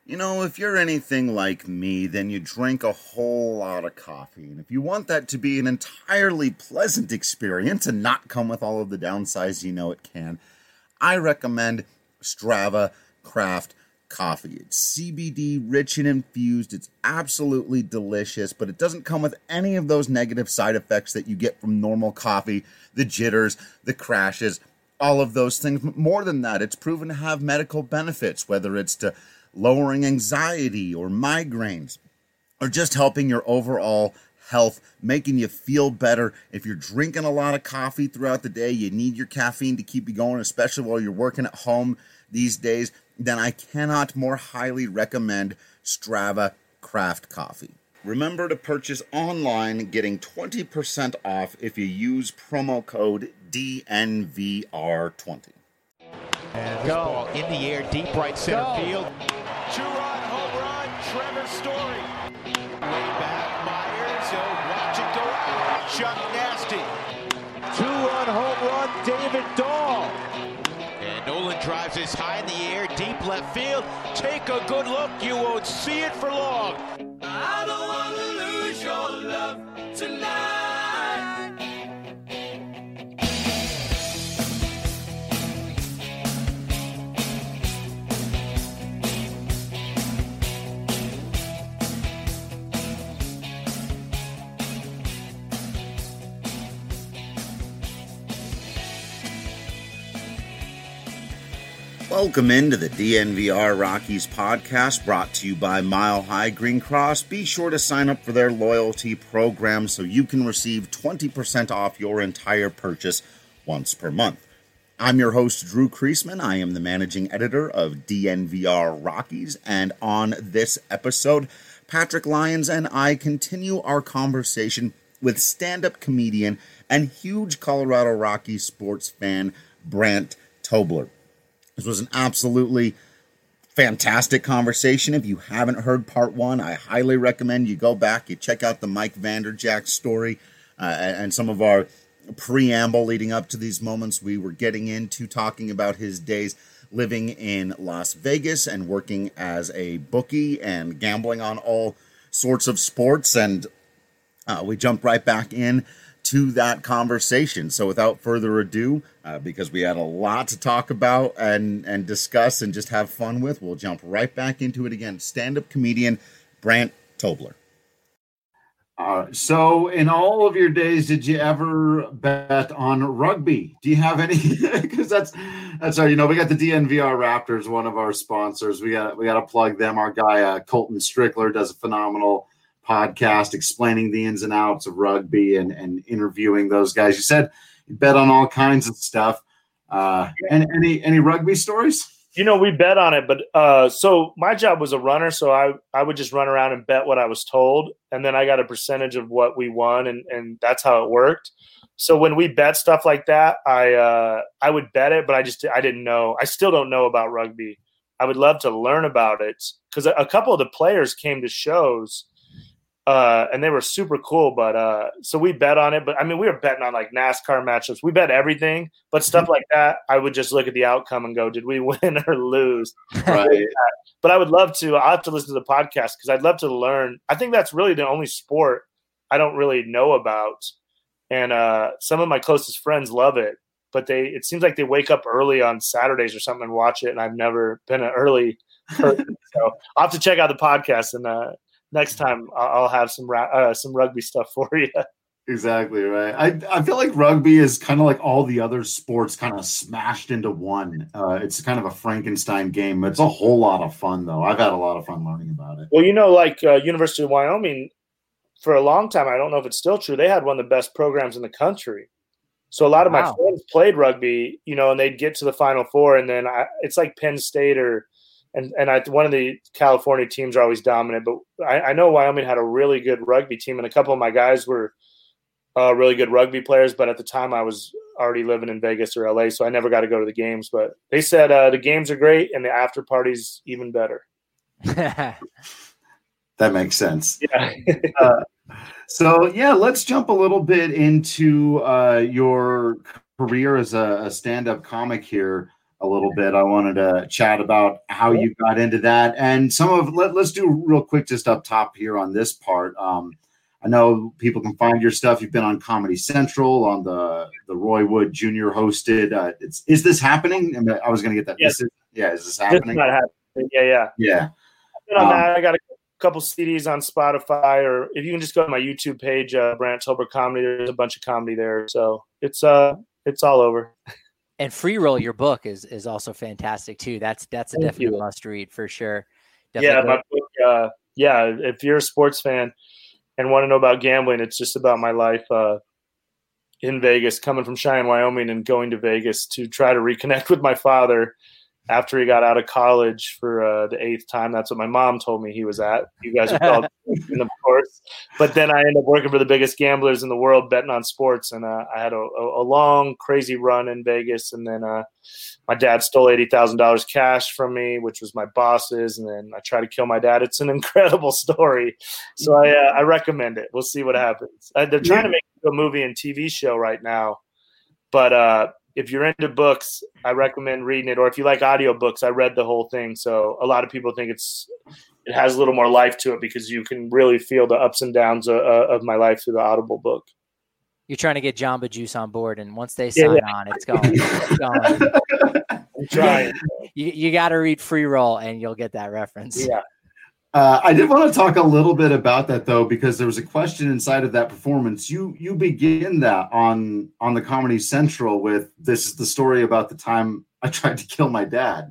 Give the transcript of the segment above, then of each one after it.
If you're anything like me, then you drink a whole lot of coffee. And if you want that to be an entirely pleasant experience and not come with all of the downsides it can, I recommend Strava Craft Coffee. It's CBD rich and infused. It's absolutely delicious, but it doesn't come with any of those negative side effects that you get from normal coffee, the jitters, the crashes, all of those things. More than that, it's proven to have medical benefits, whether it's to lowering anxiety or migraines, or just helping your overall health, making you feel better. If you're drinking a lot of coffee throughout the day, you need your caffeine to keep you going, especially while you're working at home these days, then I cannot more highly recommend Strava Craft Coffee. Remember to purchase online, getting 20% off if you use promo code DNVR20. And this ball in the air, deep right center field. Two-run home run, Trevor Story. Way back, Myers, he'll watch it go out. Chuck Nasty. Two-run home run, David Dahl. And Nolan drives this high in the air, deep left field. Take a good look, you won't see it for long. I don't want to lose your love tonight. Welcome into the DNVR Rockies podcast, brought to you by Mile High Green Cross. Be sure to sign up for their loyalty program so you can receive 20% off your entire purchase once per month. I'm your host, Drew Kreisman. I am the managing editor of DNVR Rockies, and on this episode, Patrick Lyons and I continue our conversation with stand-up comedian and huge Colorado Rockies sports fan, Brant Tobler. This was an absolutely fantastic conversation. If you haven't heard part one, I highly recommend you go back, you check out the Mike Vanderjagt story and some of our preamble leading up to these moments. We were getting into talking about his days living in Las Vegas and working as a bookie and gambling on all sorts of sports. And we jumped right back in to that conversation. So without further ado, because we had a lot to talk about and discuss and just have fun with, we'll jump right back into it again. Stand-up comedian Brant Tobler. So in all of your days, did you ever bet on rugby? Do you have any? Because that's our, we got the DNVR Raptors, one of our sponsors. We got to plug them. Our guy Colton Strickler does a phenomenal podcast explaining the ins and outs of rugby and interviewing those guys. You said you bet on all kinds of stuff. And any rugby stories? We bet on it, but so my job was a runner, so I would just run around and bet what I was told, and then I got a percentage of what we won, and that's how it worked. So when we bet stuff like that, I would bet it, but I didn't know. I still don't know about rugby. I would love to learn about it because a couple of the players came to shows. And they were super cool, but so we bet on it. But I mean, we were betting on like NASCAR matchups. We bet everything, but stuff like that, I would just look at the outcome and go, "Did we win or lose?" Right. But I would love to. I'll have to listen to the podcast because I'd love to learn. I think that's really the only sport I don't really know about, and some of my closest friends love it. But it seems like they wake up early on Saturdays or something and watch it, and I've never been an early person. So I'll have to check out the podcast and. Next time I'll have some rugby stuff for you. Exactly right. I feel like rugby is kind of like all the other sports kind of smashed into one. It's kind of a Frankenstein game. It's a whole lot of fun, though. I've had a lot of fun learning about it. Well, like University of Wyoming, for a long time, I don't know if it's still true, they had one of the best programs in the country. So a lot of my friends played rugby, and they'd get to the Final Four, and then it's like Penn State one of the California teams are always dominant, but I know Wyoming had a really good rugby team, and a couple of my guys were really good rugby players. But at the time, I was already living in Vegas or LA, so I never got to go to the games. But they said the games are great, and the after party's even better. That makes sense. Yeah. Let's jump a little bit into your career as a stand-up comic here. a little bit. I wanted to chat about how you got into that, and let's do real quick just up top here on this part. I know people can find your stuff. You've been on Comedy Central on the Roy Wood Jr. hosted. Is this happening? I was going to get that. Yes. Is this happening? This is not happening. Yeah. I've been on that. I got a couple CDs on Spotify, or if you can just go to my YouTube page, Brant Tolbert Comedy. There's a bunch of comedy there, so it's all over. And Free Roll, your book, is also fantastic too. That's a definite must read for sure. Definitely my book. If you're a sports fan and want to know about gambling, it's just about my life in Vegas, coming from Cheyenne, Wyoming, and going to Vegas to try to reconnect with my father after he got out of college for the 8th time. That's what my mom told me he was at. You guys are called, of course. But then I ended up working for the biggest gamblers in the world, betting on sports. And I had a long, crazy run in Vegas. And then my dad stole $80,000 cash from me, which was my boss's. And then I tried to kill my dad. It's an incredible story. So I recommend it. We'll see what happens. They're trying to make a movie and TV show right now. But if you're into books, I recommend reading it. Or if you like audiobooks, I read the whole thing. So a lot of people think it has a little more life to it because you can really feel the ups and downs of my life through the Audible book. You're trying to get Jamba Juice on board, and once they sign on, it's going. It's going. I'm trying. You got to read Free Roll, and you'll get that reference. Yeah. I did want to talk a little bit about that, though, because there was a question inside of that performance. You begin that on the Comedy Central with, this is the story about the time I tried to kill my dad.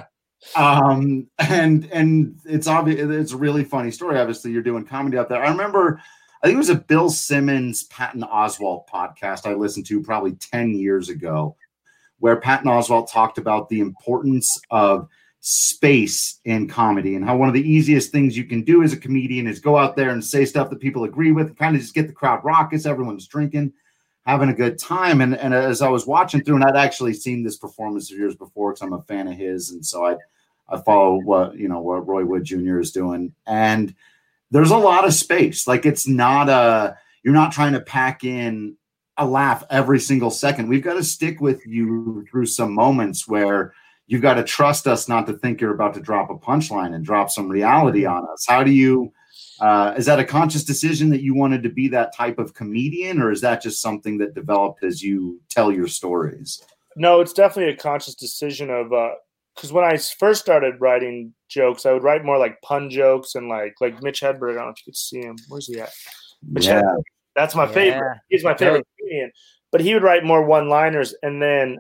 And it's obvious, it's a really funny story. Obviously, you're doing comedy out there. I remember, I think it was a Bill Simmons, Patton Oswalt podcast I listened to probably 10 years ago, where Patton Oswalt talked about the importance of space in comedy and how one of the easiest things you can do as a comedian is go out there and say stuff that people agree with, kind of just get the crowd raucous, everyone's drinking, having a good time. And as I was watching through, and I'd actually seen this performance of yours before because I'm a fan of his, and so I follow what Roy Wood Jr. is doing, and there's a lot of space. Like, it's not you're not trying to pack in a laugh every single second. We've got to stick with you through some moments where you've got to trust us not to think you're about to drop a punchline and drop some reality on us. How do you, is that a conscious decision that you wanted to be that type of comedian, or is that just something that developed as you tell your stories? No, it's definitely a conscious decision of, because when I first started writing jokes, I would write more like pun jokes and like Mitch Hedberg. I don't know if you could see him. Where's he at? Mitch Hedberg. That's my favorite. He's my favorite comedian. But he would write more one-liners, and then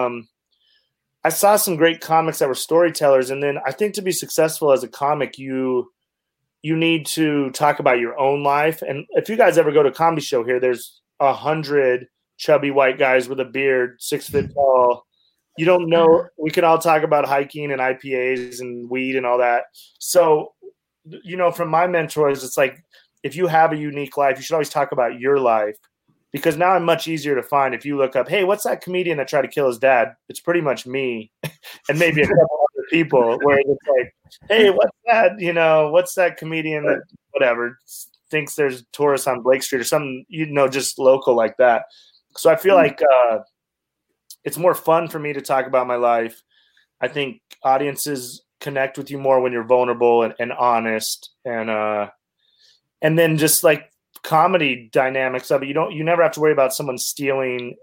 I saw some great comics that were storytellers. And then I think to be successful as a comic, you need to talk about your own life. And if you guys ever go to a comedy show here, there's 100 chubby white guys with a beard, 6 foot tall. You don't know. We can all talk about hiking and IPAs and weed and all that. So, from my mentors, it's like, if you have a unique life, you should always talk about your life. Because now I'm much easier to find. If you look up, hey, what's that comedian that tried to kill his dad? It's pretty much me and maybe a couple other people, where it's like, hey, what's that? What's that comedian that whatever thinks there's tourists on Blake Street or something, just local like that. So I feel like it's more fun for me to talk about my life. I think audiences connect with you more when you're vulnerable and honest, and then just like comedy dynamics of it. You never have to worry about someone stealing,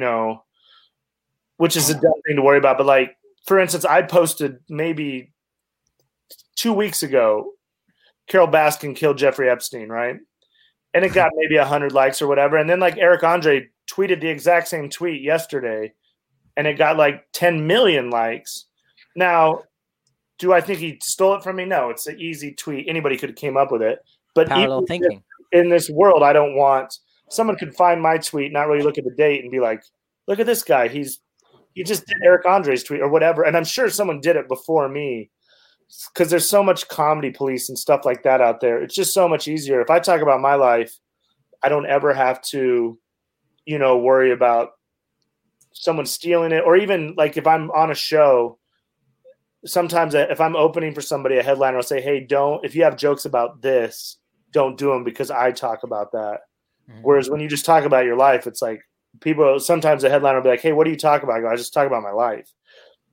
which is a dumb thing to worry about. But like, for instance, I posted maybe 2 weeks ago, Carol Baskin killed Jeffrey Epstein, right? And it got maybe 100 likes or whatever. And then like Eric Andre tweeted the exact same tweet yesterday, and it got like 10 million likes. Now, do I think he stole it from me? No, it's an easy tweet. Anybody could have came up with it. But parallel thinking. In this world, I don't want someone could find my tweet, not really look at the date, and be like, "Look at this guy. He just did Eric Andre's tweet or whatever." And I'm sure someone did it before me, because there's so much comedy police and stuff like that out there. It's just so much easier. If I talk about my life, I don't ever have to, worry about someone stealing it, or even like if I'm on a show. Sometimes if I'm opening for somebody, a headliner will say, "Hey, if you have jokes about this, don't do them because I talk about that." Mm-hmm. Whereas when you just talk about your life, it's like sometimes a headliner will be like, "Hey, what do you talk about?" I go, "I just talk about my life."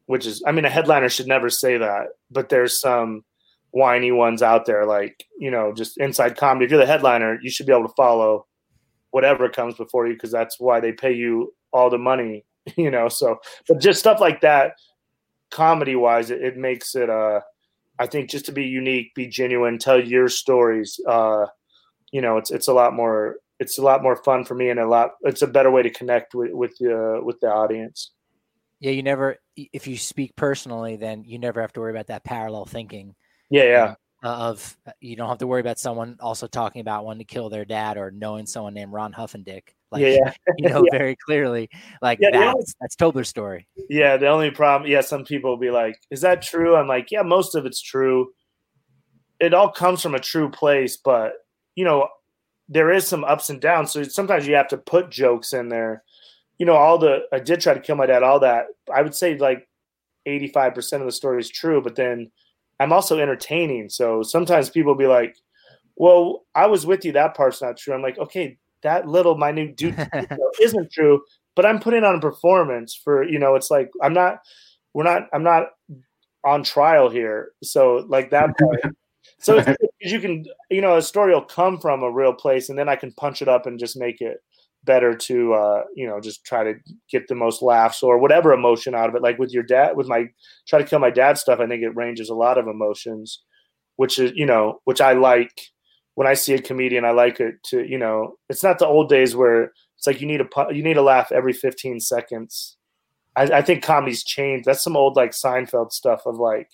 which is, I mean, a headliner should never say that, but there's some whiny ones out there, like, you know, just inside comedy. If you're the headliner, you should be able to follow whatever comes before you, because that's why they pay you all the money, you know. So, but just stuff like that, comedy wise, it makes it, I think, just to be unique, be genuine, tell your stories. You know, it's a lot more fun for me, and it's a better way to connect with the audience. Yeah, you never, if you speak personally, then you never have to worry about that parallel thinking. Yeah. Of you don't have to worry about someone also talking about wanting to kill their dad or knowing someone named Ron Huffendick. Like, you know, very clearly, like that's Tobler's story. Yeah, the only problem, some people will be like, is that true? I'm like, yeah, most of it's true. It all comes from a true place, but, you know, there is some ups and downs. So sometimes you have to put jokes in there. You know, I did try to kill my dad, all that. I would say like 85% of the story is true, but then I'm also entertaining. So sometimes people will be like, well, I was with you. That part's not true. I'm like, okay, that little minute detail isn't true, but I'm putting on a performance for, you know, it's like, I'm not on trial here. So like that part. So you can, you know, a story will come from a real place, and then I can punch it up and just make it better to, you know, just try to get the most laughs or whatever emotion out of it. Like with your dad, with my Try to Kill My Dad stuff, I think it ranges a lot of emotions, which is, you know, which I like. When I see a comedian, I like it to, you know, it's not the old days where it's like you need a laugh every 15 seconds. I think comedy's changed. That's some old like Seinfeld stuff of like,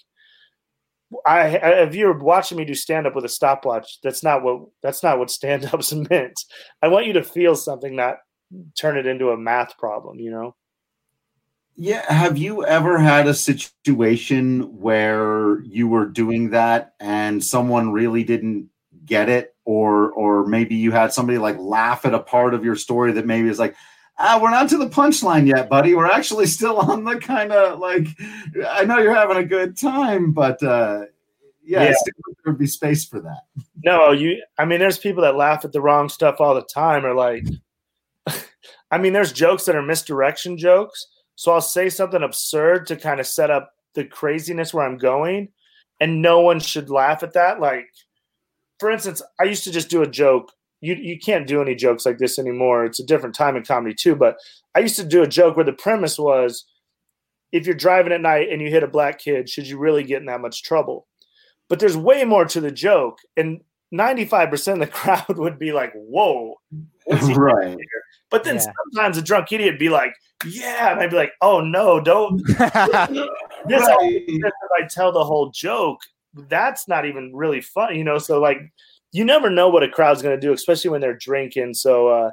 if you're watching me do stand up with a stopwatch, that's not what stand up's meant. I want you to feel something, not turn it into a math problem, you know? Yeah. Have you ever had a situation where you were doing that and someone really didn't get it, or maybe you had somebody like laugh at a part of your story that maybe is like, we're not to the punchline yet, buddy. We're actually still on the kind of like, I know you're having a good time, but there would be space for that. No, I mean, there's people that laugh at the wrong stuff all the time, or like, I mean, there's jokes that are misdirection jokes. So I'll say something absurd to kind of set up the craziness where I'm going, and no one should laugh at that. Like, for instance, I used to just do a joke. You can't do any jokes like this anymore. It's a different time in comedy too. But I used to do a joke where the premise was, if you're driving at night and you hit a black kid, should you really get in that much trouble? But there's way more to the joke. And 95% of the crowd would be like, whoa. Right. But then sometimes a drunk idiot would be like, yeah. And I'd be like, oh, no, don't. This I tell the whole joke. That's not even really fun, you know? So like, you never know what a crowd's going to do, especially when they're drinking. So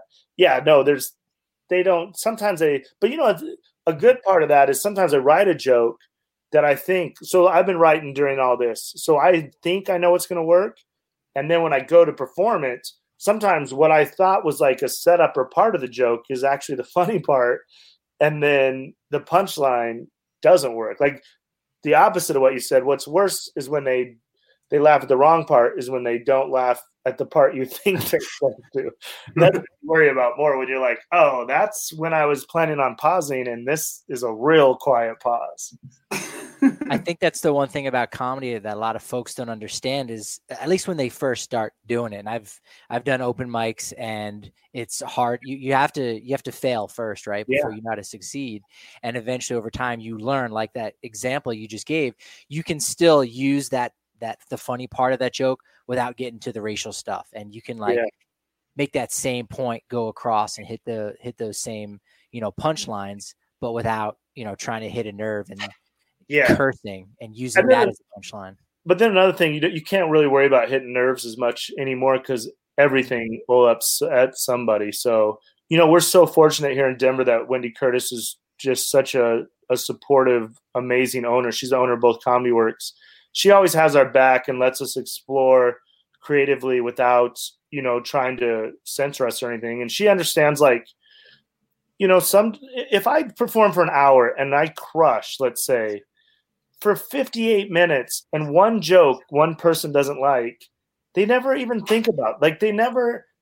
but you know, a good part of that is sometimes I write a joke that I think, so I've been writing during all this. So I think I know it's going to work. And then when I go to perform it, sometimes what I thought was like a setup or part of the joke is actually the funny part. And then the punchline doesn't work. Like the opposite of what you said. What's worse is when they laugh at the wrong part, is when they don't laugh at the part you think they're going to. That's what you worry about more, when you're like, oh, that's when I was planning on pausing, and this is a real quiet pause. I think that's the one thing about comedy that a lot of folks don't understand is, at least when they first start doing it. And I've done open mics, and it's hard. You have to fail first, right? Before you know how to succeed. And eventually over time you learn, like that example you just gave, you can still use the funny part of that joke without getting to the racial stuff. And you can make that same point go across and hit those same, you know, punchlines, but without, you know, trying to hit a nerve and cursing and using that as a punchline. But then another thing, you can't really worry about hitting nerves as much anymore, because everything will upset somebody. So, you know, we're so fortunate here in Denver that Wendy Curtis is just such a supportive, amazing owner. She's the owner of both Comedy Works. She always has our back and lets us explore creatively without, you know, trying to censor us or anything. And she understands, like, you know, if I perform for an hour and I crush, let's say, for 58 minutes, and one joke one person doesn't like, they never even think about. Like, they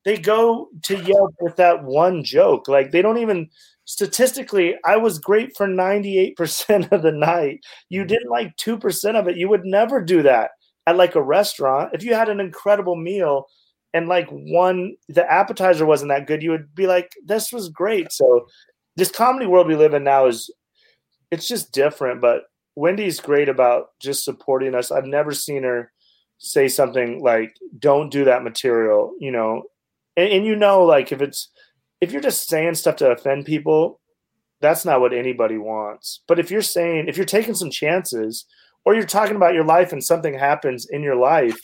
they go to Yelp with that one joke. Like they don't even statistically, I was great for 98% of the night. You didn't like 2% of it. You would never do that at like a restaurant. If you had an incredible meal and like the appetizer wasn't that good, you would be like, this was great. So this comedy world we live in now it's just different, but Wendy's great about just supporting us. I've never seen her say something like, don't do that material, you know, and you know, like if you're just saying stuff to offend people, that's not what anybody wants. But if you're taking some chances or you're talking about your life and something happens in your life,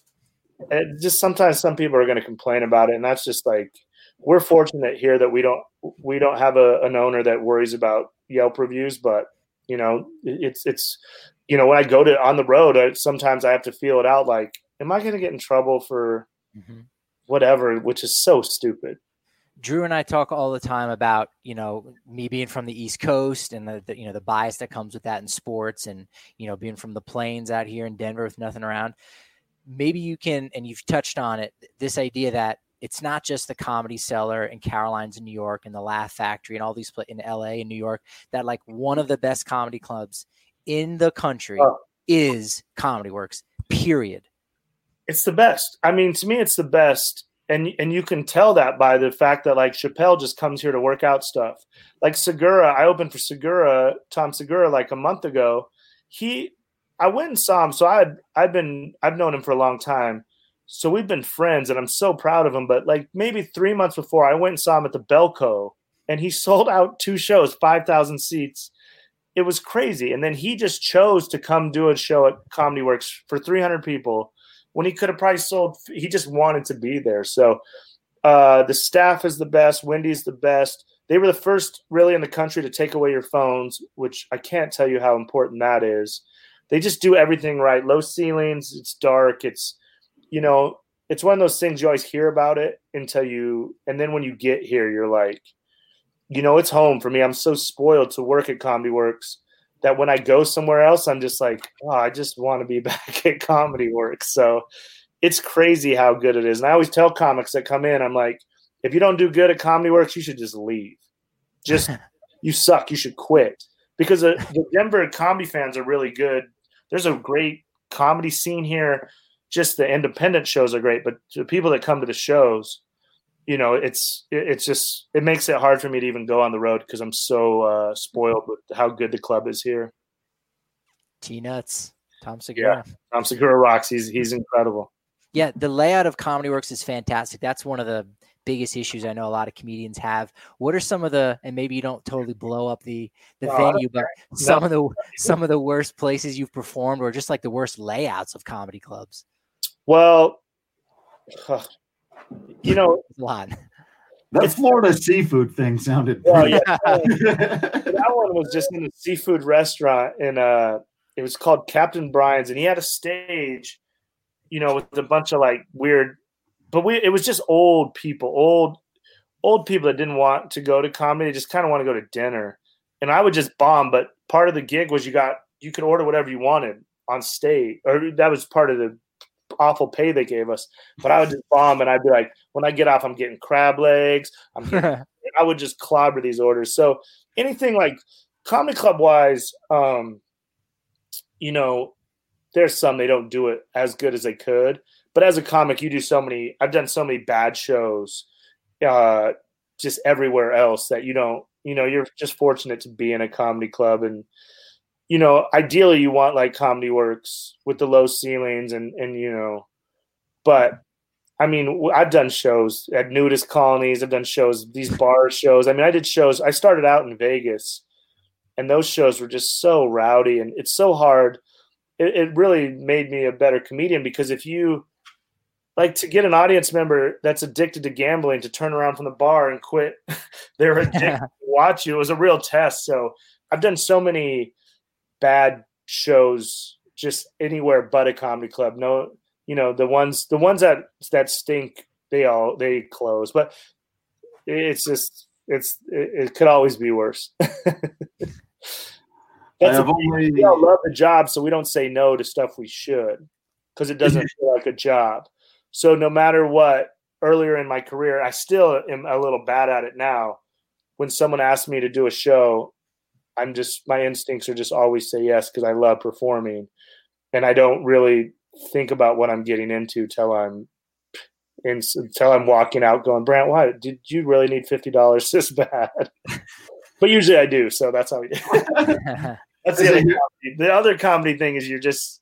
just sometimes some people are going to complain about it. And that's just like, we're fortunate here that we don't have an owner that worries about Yelp reviews, but you know, it's, you know, when I go on the road, sometimes I have to feel it out. Like, am I going to get in trouble for whatever, which is so stupid. Drew and I talk all the time about, you know, me being from the East Coast and the you know, the bias that comes with that in sports and, you know, being from the plains out here in Denver with nothing around. Maybe you can, and you've touched on it, this idea that it's not just the Comedy Cellar and Caroline's in New York and the Laugh Factory and all these in LA and New York, that like one of the best comedy clubs in the country is Comedy Works, period. It's the best. I mean, to me, it's the best. And you can tell that by the fact that like Chappelle just comes here to work out stuff. Like Segura, I opened for Segura, Tom Segura, like a month ago. I went and saw him. So I've known him for a long time. So we've been friends and I'm so proud of him. But like maybe 3 months before, I went and saw him at the Belco and he sold out 2 shows, 5,000 seats. It was crazy. And then he just chose to come do a show at Comedy Works for 300 people when he could have probably he just wanted to be there. So the staff is the best. Wendy's the best. They were the first really in the country to take away your phones, which I can't tell you how important that is. They just do everything right. Low ceilings. It's dark. It's, you know, it's one of those things you always hear about it and then when you get here, you're like, you know, it's home for me. I'm so spoiled to work at Comedy Works that when I go somewhere else, I'm just like, oh, I just want to be back at Comedy Works. So it's crazy how good it is. And I always tell comics that come in, I'm like, if you don't do good at Comedy Works, you should just leave. Just, you suck. You should quit. Because the Denver comedy fans are really good. There's a great comedy scene here. Just the independent shows are great. But the people that come to the shows, you know, it makes it hard for me to even go on the road because I'm so spoiled with how good the club is here. T-Nuts, Tom Segura. Yeah, Tom Segura rocks. He's incredible. Yeah, the layout of Comedy Works is fantastic. That's one of the biggest issues I know a lot of comedians have. What are some of and maybe you don't totally blow up the venue, but some of the worst places you've performed or just like the worst layouts of comedy clubs? Well, you know, a lot. That Florida seafood thing sounded. Well, yeah. That one was just in a seafood restaurant, and it was called Captain Brian's, and he had a stage, you know, with a bunch of like weird, but it was just old people that didn't want to go to comedy, just kind of want to go to dinner, and I would just bomb. But part of the gig was you could order whatever you wanted on stage, or that was part of the awful pay they gave us. But I would just bomb, and I'd be like, when I get off, I'm getting crab legs. I would just clobber these orders. So anything like comedy club wise, you know, there's some they don't do it as good as they could. But as a comic, I've done so many bad shows just everywhere else that you're just fortunate to be in a comedy club. And, you know, ideally you want like Comedy Works with the low ceilings and you know, but I mean, I've done shows at nudist colonies. I've done shows, these bar shows. I mean, I started out in Vegas and those shows were just so rowdy and it's so hard. It really made me a better comedian because if you like to get an audience member that's addicted to gambling to turn around from the bar and quit, they're addicted to watch you. It was a real test. So I've done so many bad shows just anywhere but a comedy club. No, you know, the ones that stink, they close. But it's just it could always be worse. We all love the job, so we don't say no to stuff we should because it doesn't feel like a job. So no matter what, earlier in my career, I still am a little bad at it now. When someone asks me to do a show, my instincts are just always say yes because I love performing, and I don't really think about what I'm getting into till I'm walking out going, Brant, why did you really need $50 this bad? But usually I do, so that's how we do. That's the other comedy thing is you're just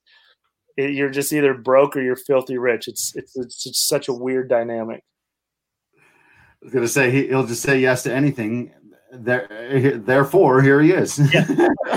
either broke or you're filthy rich. It's such a weird dynamic. I was gonna say he'll just say yes to anything. Therefore, here he is. Yeah.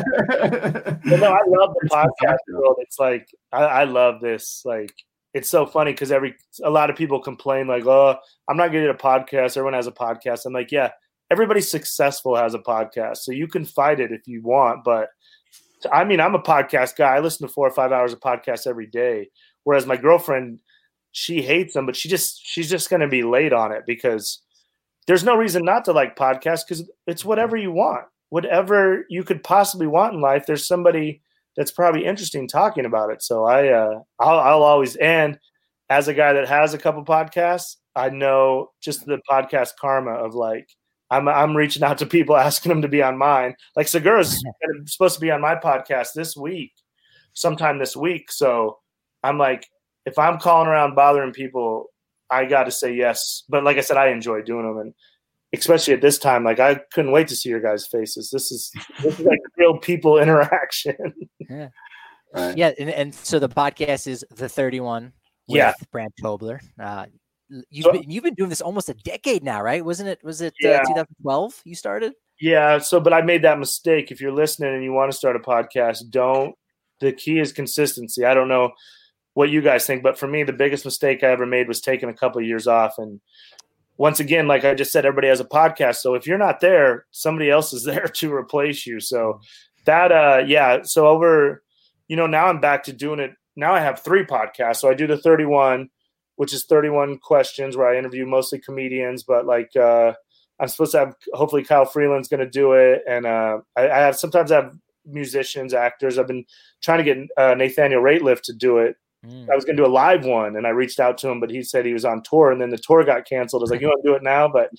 Well, no, I love the podcast world. It's like I love this. Like, it's so funny because a lot of people complain like, "Oh, I'm not getting a podcast. Everyone has a podcast." I'm like, yeah, everybody successful has a podcast, so you can fight it if you want. But I mean, I'm a podcast guy. I listen to 4 or 5 hours of podcasts every day. Whereas my girlfriend, she hates them, but she's just going to be late on it because there's no reason not to like podcasts because it's whatever you want, whatever you could possibly want in life. There's somebody that's probably interesting talking about it. So I'll always, and as a guy that has a couple podcasts, I know just the podcast karma of like, I'm reaching out to people asking them to be on mine. Like Segura's supposed to be on my podcast sometime this week. So I'm like, if I'm calling around bothering people, I got to say yes. But like I said, I enjoy doing them. And especially at this time, like I couldn't wait to see your guys' faces. This is like real people interaction. Yeah. Right. Yeah. And so the podcast is The 31 with Brant Tobler. You've been doing this almost a decade now, right? Was it 2012 you started? Yeah. So, but I made that mistake. If you're listening and you want to start a podcast, the key is consistency. I don't know what you guys think, but for me, the biggest mistake I ever made was taking a couple of years off. And once again, like I just said, everybody has a podcast. So if you're not there, somebody else is there to replace you. So that, so over, now I'm back to doing it. Now I have 3 podcasts. So I do the 31, which is 31 questions where I interview mostly comedians, but like, I'm supposed to have, hopefully Kyle Freeland's going to do it. And sometimes I have musicians, actors. I've been trying to get Nathaniel Rateliff to do it. I was going to do a live one, and I reached out to him, but he said he was on tour, and then the tour got canceled. I was like, you want to do it now? But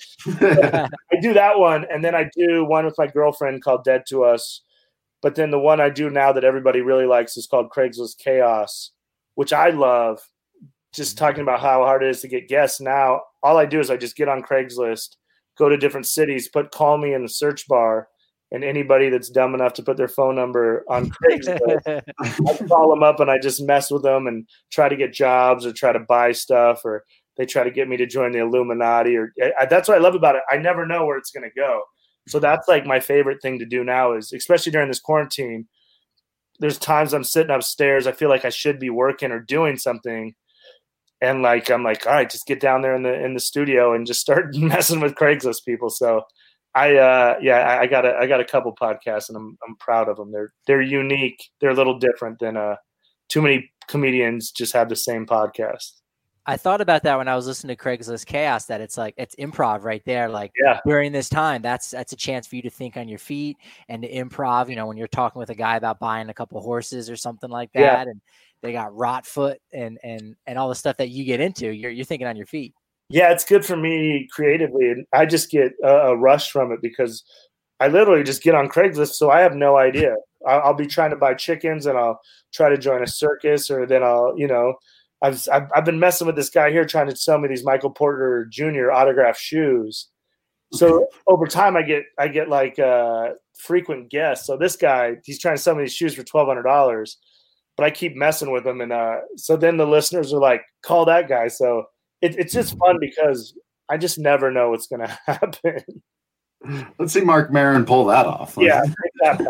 I do that one, and then I do one with my girlfriend called Dead to Us. But then the one I do now that everybody really likes is called Craigslist Chaos, which I love. Just talking about how hard it is to get guests now. All I do is I just get on Craigslist, go to different cities, call me in the search bar, and anybody that's dumb enough to put their phone number on Craigslist, I call them up and I just mess with them and try to get jobs or try to buy stuff, or they try to get me to join the Illuminati. That's what I love about it. I never know where it's going to go. So that's like my favorite thing to do now is, especially during this quarantine, there's times I'm sitting upstairs. I feel like I should be working or doing something. And like, I'm like, all right, just get down there in the studio and just start messing with Craigslist people. So I got a couple podcasts and I'm proud of them. They're unique. They're a little different than too many comedians just have the same podcast. I thought about that when I was listening to Craigslist Chaos, that it's like, it's improv right there. Like during this time, that's a chance for you to think on your feet and to improv, when you're talking with a guy about buying a couple horses or something like that. And they got rot foot and all the stuff that you get into, you're thinking on your feet. Yeah, it's good for me creatively. And I just get a rush from it because I literally just get on Craigslist. So I have no idea. I'll be trying to buy chickens and I'll try to join a circus, or then I've been messing with this guy here trying to sell me these Michael Porter Jr. autographed shoes. So over time I get like frequent guests. So this guy, he's trying to sell me these shoes for $1,200, but I keep messing with him. And so then the listeners are like, call that guy. So it's just fun because I just never know what's going to happen. Let's see Mark Maron pull that off. Yeah, exactly.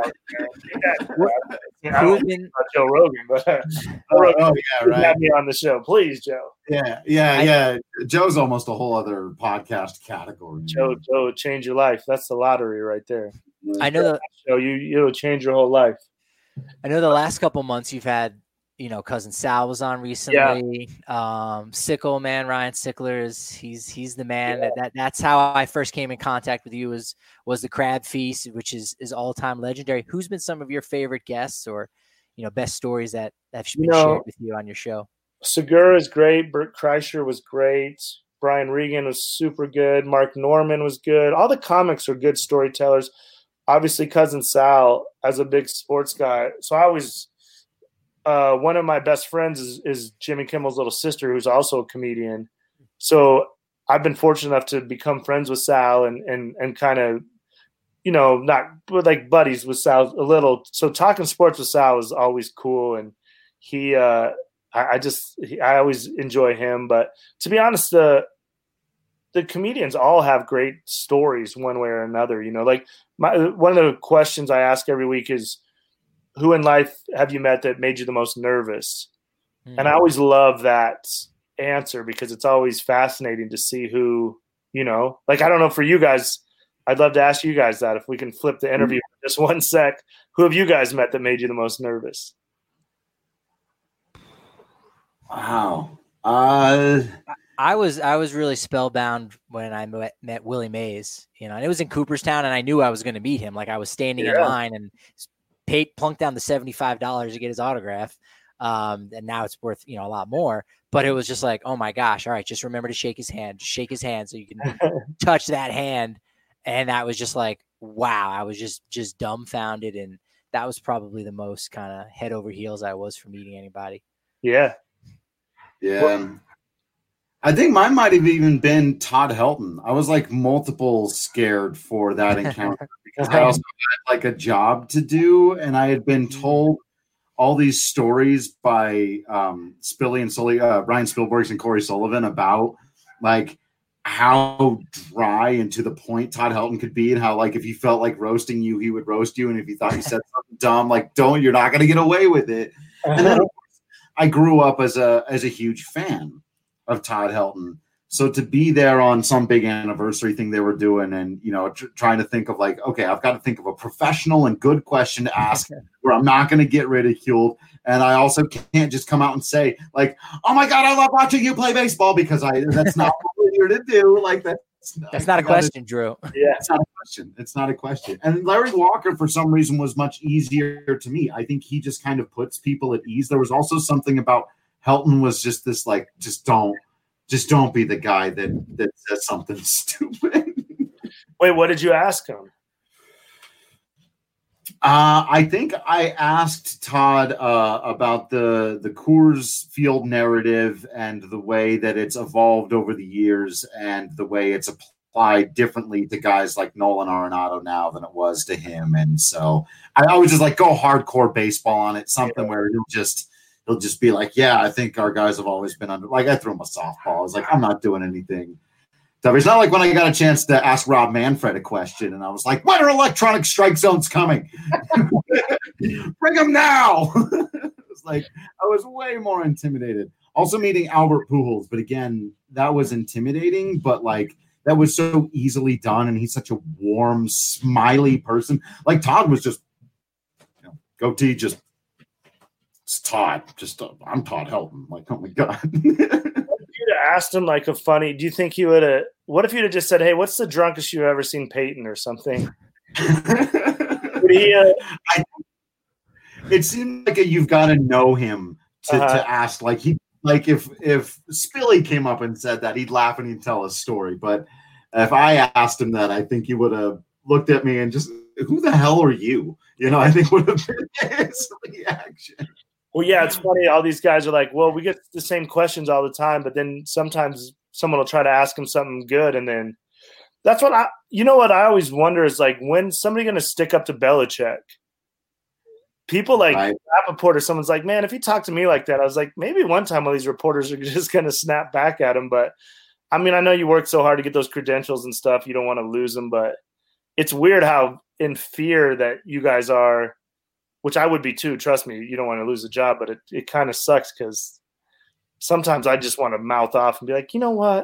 I don't know about Joe Rogan, but have me on the show, please, Joe. Yeah. Joe's almost a whole other podcast category. Joe, change your life. That's the lottery right there. I know that show you'll change your whole life. I know the last couple months you've had, Cousin Sal was on recently. Sickle man, Ryan Sickler he's the man. That's how I first came in contact with you was the Crab Feast, which is all time legendary. Who's been some of your favorite guests or best stories that have been shared with you on your show? Segura is great. Bert Kreischer was great. Brian Regan was super good. Mark Norman was good. All the comics are good storytellers. Obviously, Cousin Sal as a big sports guy. So I always one of my best friends is Jimmy Kimmel's little sister, who's also a comedian. So I've been fortunate enough to become friends with Sal and kind of, you know, not like buddies with Sal a little. So talking sports with Sal is always cool. And he, I always enjoy him. But to be honest, the comedians all have great stories one way or another. You know, like one of the questions I ask every week is, who in life have you met that made you the most nervous? And I always love that answer because it's always fascinating to see who, you know, like, I don't know, for you guys, I'd love to ask you guys that if we can flip the interview for just one sec. Who have you guys met that made you the most nervous? Wow. I was really spellbound when I met Willie Mays, you know, and it was in Cooperstown, and I knew I was going to meet him. Like, I was standing in line and plunked down the $75 to get his autograph. And now it's worth, you know, a lot more, but it was just like, oh my gosh. All right. Just remember to shake his hand so you can touch that hand. And that was just like, wow. I was just dumbfounded. And that was probably the most kind of head over heels I was for meeting anybody. Yeah. Yeah. I think mine might have even been Todd Helton. I was like multiple scared for that encounter because I also had like a job to do, and I had been told all these stories by Spilly and Sully, Ryan Spielberg and Corey Sullivan about like how dry and to the point Todd Helton could be, and how like if he felt like roasting you, he would roast you, and if he thought you said something dumb, like you're not going to get away with it. And then I grew up as a huge fan of Todd Helton. So to be there on some big anniversary thing they were doing and, you know, trying to think of like, okay, I've got to think of a professional and good question to ask where I'm not going to get ridiculed. And I also can't just come out and say like, oh my God, I love watching you play baseball, because that's not what we're here to do. Like that's not a question, Drew. Yeah. It's not a question. It's not a question. And Larry Walker, for some reason, was much easier to me. I think he just kind of puts people at ease. There was also something about Helton was just this like, just don't be the guy that says something stupid. Wait, what did you ask him? I think I asked Todd about the Coors Field narrative and the way that it's evolved over the years and the way it's applied differently to guys like Nolan Arenado now than it was to him. And so I would just like go hardcore baseball on it, something where he'll just be like, yeah, I think our guys have always been under. Like I threw him a softball. I was like, I'm not doing anything. It's not like when I got a chance to ask Rob Manfred a question, and I was like, when are electronic strike zones coming? Bring them now. It was like I was way more intimidated. Also meeting Albert Pujols, but again, that was intimidating, but like that was so easily done, and he's such a warm, smiley person. Like Todd was just, you know, goatee, just it's Todd. Just I'm Todd Helton. Like, oh my God. If you'd have asked him like a funny, do you think he would have? What if you'd have just said, "Hey, what's the drunkest you've ever seen Peyton or something?" It seemed like you've got to know him to ask. Like if Spilly came up and said that, he'd laugh and he'd tell a story. But if I asked him that, I think he would have looked at me and just, who the hell are you? You know, I think would have been his reaction. Well, yeah, it's funny. All these guys are like, well, we get the same questions all the time, but then sometimes someone will try to ask them something good. And then that's what what I always wonder is like, when somebody going to stick up to Belichick? People like Rappaport or someone's like, man, if he talked to me like that, I was like, maybe one time all these reporters are just going to snap back at him. But I mean, I know you work so hard to get those credentials and stuff. You don't want to lose them, but it's weird how in fear that you guys are, which I would be too. Trust me, you don't want to lose a job, but it kind of sucks because sometimes I just want to mouth off and be like, you know what?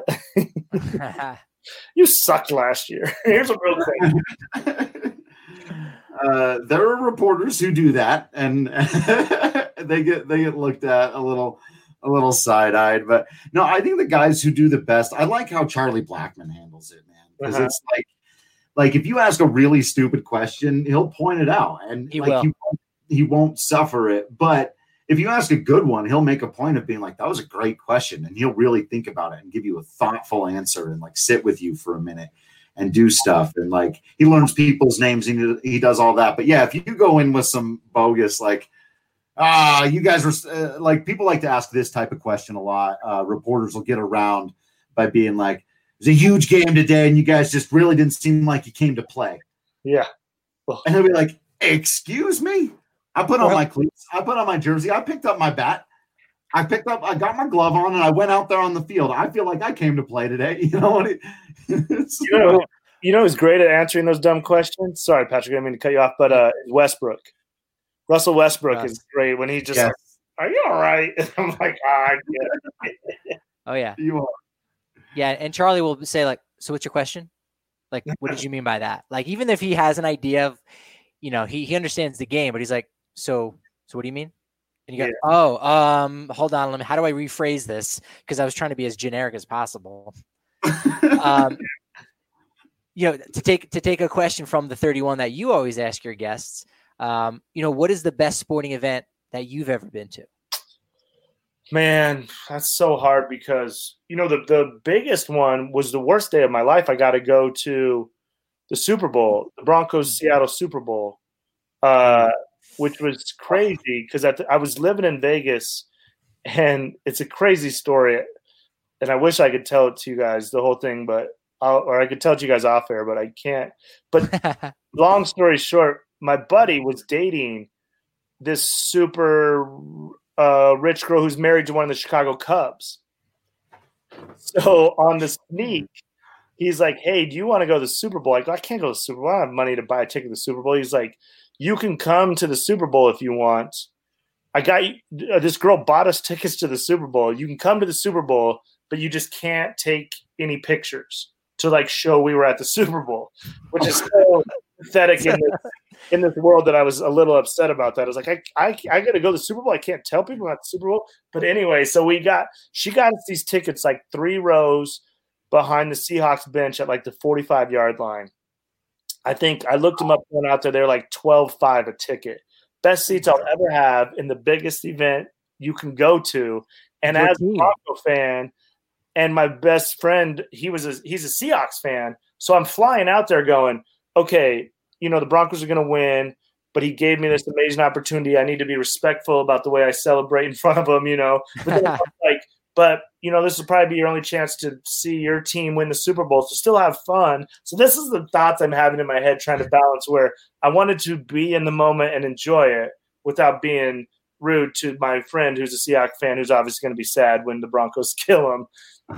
You sucked last year. Here's a real thing. There are reporters who do that, and they get looked at a little side-eyed. But no, I think the guys who do the best. I like how Charlie Blackmon handles it, man, because it's like if you ask a really stupid question, he'll point it out, and he won't suffer it. But if you ask a good one, he'll make a point of being like, that was a great question. And he'll really think about it and give you a thoughtful answer and like sit with you for a minute and do stuff. And like, he learns people's names and he does all that. But yeah, if you go in with some bogus, like, you guys were like, people like to ask this type of question a lot. Reporters will get around by being like, it was a huge game today and you guys just really didn't seem like you came to play. Yeah. And he'll be like, excuse me? I put on my cleats. I put on my jersey. I picked up my bat. I got my glove on, and I went out there on the field. I feel like I came to play today. You know what? You know who's great at answering those dumb questions? Sorry, Patrick, I didn't mean to cut you off, but Westbrook. Russell Westbrook is great when he just like, are you all right? I'm like, I get it. Oh, yeah. You are. Yeah, and Charlie will say, like, so what's your question? Like, what did you mean by that? Like, even if he has an idea of, you know, he understands the game, but he's like, so what do you mean? And you go, hold on, how do I rephrase this? Because I was trying to be as generic as possible. You know, to take a question from the 31 that you always ask your guests, you know, what is the best sporting event that you've ever been to? Man, that's so hard because, you know, the biggest one was the worst day of my life. I got to go to the Super Bowl, the Broncos-Seattle Super Bowl, which was crazy because I was living in Vegas, and it's a crazy story. And I wish I could tell it to you guys, the whole thing, but I could tell it to you guys off air, but I can't. But long story short, my buddy was dating this super rich girl who's married to one of the Chicago Cubs. So on the sneak, he's like, hey, do you want to go to the Super Bowl? I go, I can't go to the Super Bowl. I don't have money to buy a ticket to the Super Bowl. He's like, you can come to the Super Bowl if you want. I got you. This girl bought us tickets to the Super Bowl. You can come to the Super Bowl, but you just can't take any pictures to like show we were at the Super Bowl, which is so pathetic in this world that I was a little upset about that. I was like, I got to go to the Super Bowl. I can't tell people about the Super Bowl. But anyway, so she got us these tickets like 3 rows behind the Seahawks bench at like the 45-yard line. I think I looked them up going out there. They're like $12.5 a ticket. Best seats I'll ever have in the biggest event you can go to. And as a Bronco fan, and my best friend, he's a Seahawks fan. So I'm flying out there going, okay, you know, the Broncos are going to win, but he gave me this amazing opportunity. I need to be respectful about the way I celebrate in front of him, you know. But you know, this will probably be your only chance to see your team win the Super Bowl, so still have fun. So this is the thoughts I'm having in my head, trying to balance where I wanted to be in the moment and enjoy it without being rude to my friend who's a Seahawks fan, who's obviously going to be sad when the Broncos kill him.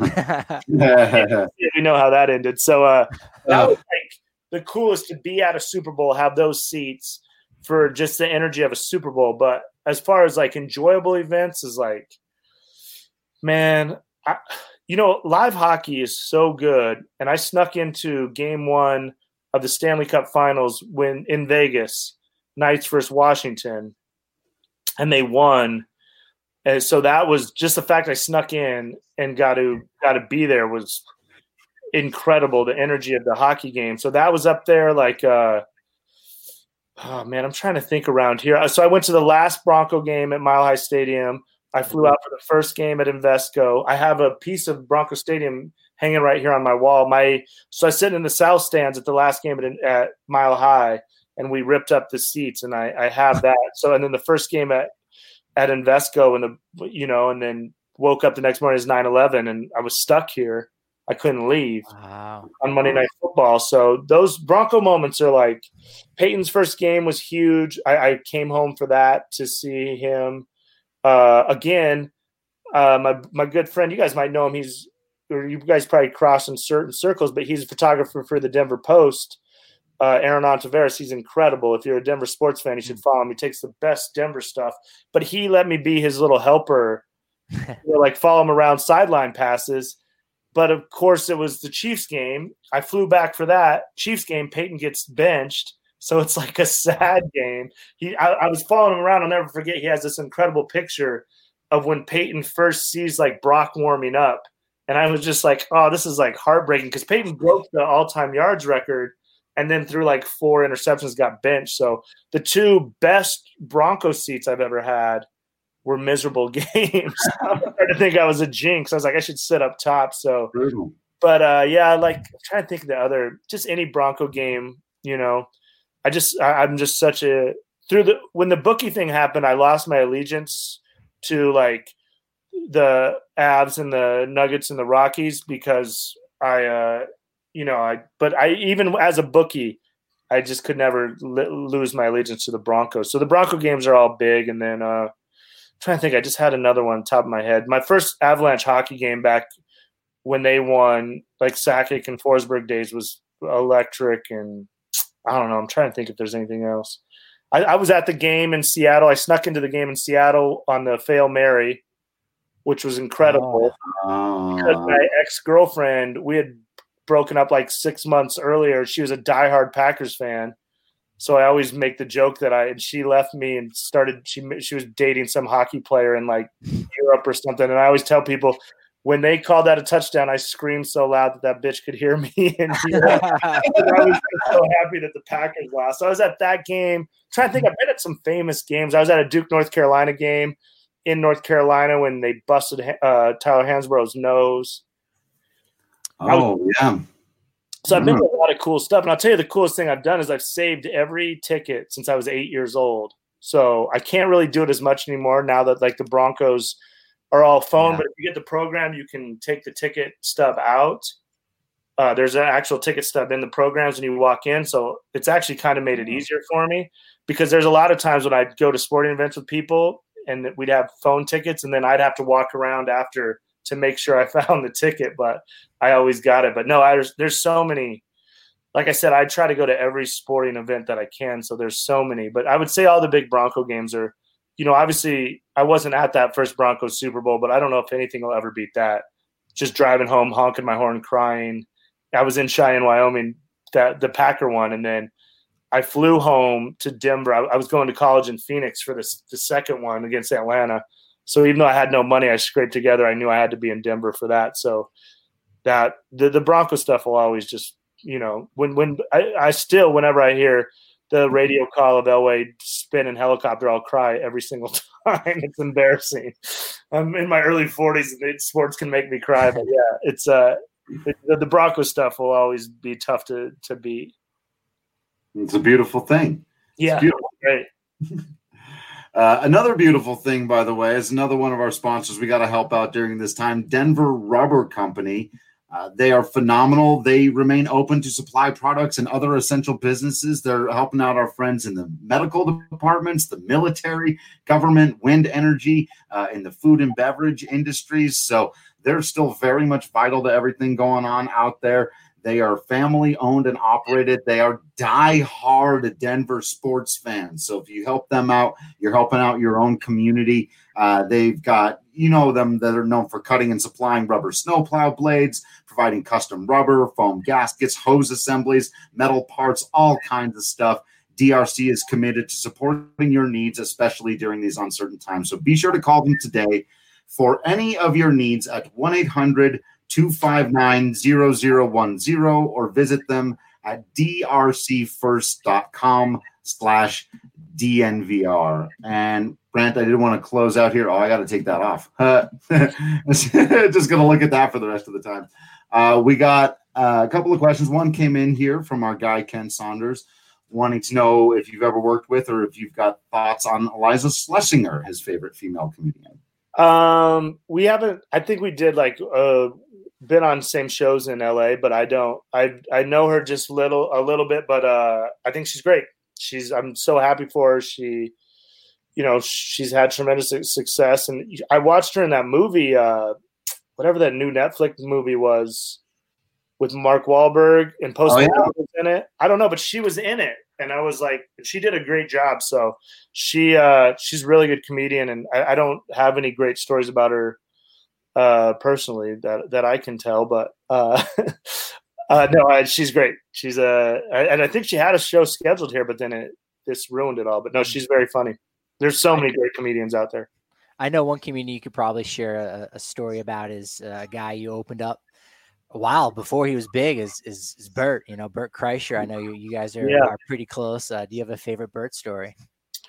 We know how that ended. So that was like the coolest, to be at a Super Bowl, have those seats for just the energy of a Super Bowl. But as far as like enjoyable events is like, man, you know, live hockey is so good. And I snuck into game 1 of the Stanley Cup Finals when in Vegas, Knights versus Washington, and they won. And so that was just the fact I snuck in and got to be there was incredible. The energy of the hockey game. So that was up there. Like, oh man, I'm trying to think around here. So I went to the last Bronco game at Mile High Stadium. I flew out for the first game at Invesco. I have a piece of Bronco Stadium hanging right here on my wall. So I sit in the south stands at the last game at Mile High, and we ripped up the seats, and I have that. So, and then the first game at Invesco, and then woke up the next morning as 9/11, and I was stuck here. I couldn't leave on Monday Night Football. So those Bronco moments are like, Peyton's first game was huge. I came home for that to see him. Again, my good friend, you guys might know him. You guys probably cross in certain circles, but he's a photographer for the Denver Post. Aaron Ontiveros, he's incredible. If you're a Denver sports fan, you should follow him. He takes the best Denver stuff. But he let me be his little helper, like follow him around sideline passes. But of course, it was the Chiefs game. I flew back for that Chiefs game. Peyton gets benched. So it's like a sad game. I was following him around. I'll never forget. He has this incredible picture of when Peyton first sees like Brock warming up. And I was just like, oh, this is like heartbreaking, because Peyton broke the all-time yards record and then threw like 4 interceptions, got benched. So the 2 best Broncos seats I've ever had were miserable games. I started to think I was a jinx. I was like, I should sit up top. So, Brutal. but like I'm trying to think of the other, just any Bronco game. I'm just such a when the bookie thing happened, I lost my allegiance to like the Avs and the Nuggets and the Rockies because but I even as a bookie, I just could never lose my allegiance to the Broncos. So the Bronco games are all big. And then trying to think, I just had another one on top of my head. My first Avalanche hockey game back when they won, like Sakic and Forsberg days, was electric. And I don't know. I'm trying to think if there's anything else. I was at the game in Seattle. I snuck into the game in Seattle on the Fail Mary, which was incredible. Because my ex-girlfriend, we had broken up like 6 months earlier. She was a diehard Packers fan. So I always make the joke that she left me and she was dating some hockey player in like Europe or something. And I always tell people when they called that a touchdown, I screamed so loud that bitch could hear me. And I was so happy that the Packers lost. So I was at that game. I'm trying to think, I've been at some famous games. I was at a Duke, North Carolina game in North Carolina when they busted Tyler Hansborough's nose. Yeah. So I've been to a lot of cool stuff. And I'll tell you the coolest thing I've done is I've saved every ticket since I was 8 years old. So I can't really do it as much anymore now that like the Broncos are all phone. But if you get the program, you can take the ticket stub out. There's an actual ticket stub in the programs when you walk in. So it's actually kind of made it easier for me because there's a lot of times when I'd go to sporting events with people and we'd have phone tickets and then I'd have to walk around after to make sure I found the ticket, but I always got it. But no, there's so many. Like I said, I try to go to every sporting event that I can. So there's so many, but I would say all the big Bronco games are, obviously I wasn't at that first Broncos Super Bowl, but I don't know if anything will ever beat that. Just driving home, honking my horn, crying. I was in Cheyenne, Wyoming, the Packer one. And then I flew home to Denver. I was going to college in Phoenix for the second one against Atlanta. So even though I had no money, I scraped together. I knew I had to be in Denver for that. So that the Bronco stuff will always just, when I still, whenever I hear the radio call of Elway spinning helicopter, I'll cry every single time. It's embarrassing. I'm in my early 40s and sports can make me cry, but yeah, it's the Bronco stuff will always be tough to beat. It's a beautiful thing. Yeah. Beautiful. Great. Another beautiful thing, by the way, is another one of our sponsors we got to help out during this time, Denver Rubber Company. They are phenomenal. They remain open to supply products and other essential businesses. They're helping out our friends in the medical departments, the military, government, wind energy, in the food and beverage industries. So they're still very much vital to everything going on out there. They are family owned and operated. They are die-hard Denver sports fans. So if you help them out, you're helping out your own community. They've got, them that are known for cutting and supplying rubber snowplow blades, providing custom rubber, foam gaskets, hose assemblies, metal parts, all kinds of stuff. DRC is committed to supporting your needs, especially during these uncertain times. So be sure to call them today for any of your needs at 1-800-259-0010 or visit them at drcfirst.com/DNVR. And Brant, I didn't want to close out here. Oh, I got to take that off. Just going to look at that for the rest of the time. We got a couple of questions. One came in here from our guy, Ken Saunders, wanting to know if you've ever worked with or if you've got thoughts on Eliza Schlesinger, his favorite female comedian. We haven't. I think we did been on same shows in LA, but I don't. I know her just a little bit, but I think she's great. I'm so happy for her. She's had tremendous success, and I watched her in that movie, whatever that new Netflix movie was, with Mark Wahlberg and Post Malone was in it. I don't know, but she was in it, and I was like, she did a great job. So she's a really good comedian, and I don't have any great stories about her personally that I can tell, but no, she's great. She's and I think she had a show scheduled here, but then this ruined it all. But no, she's very funny. There's so many great comedians out there. I know one comedian you could probably share a story about is a guy you opened up a while before he was big is Bert. Bert Kreischer. I know you guys are pretty close. Do you have a favorite Bert story?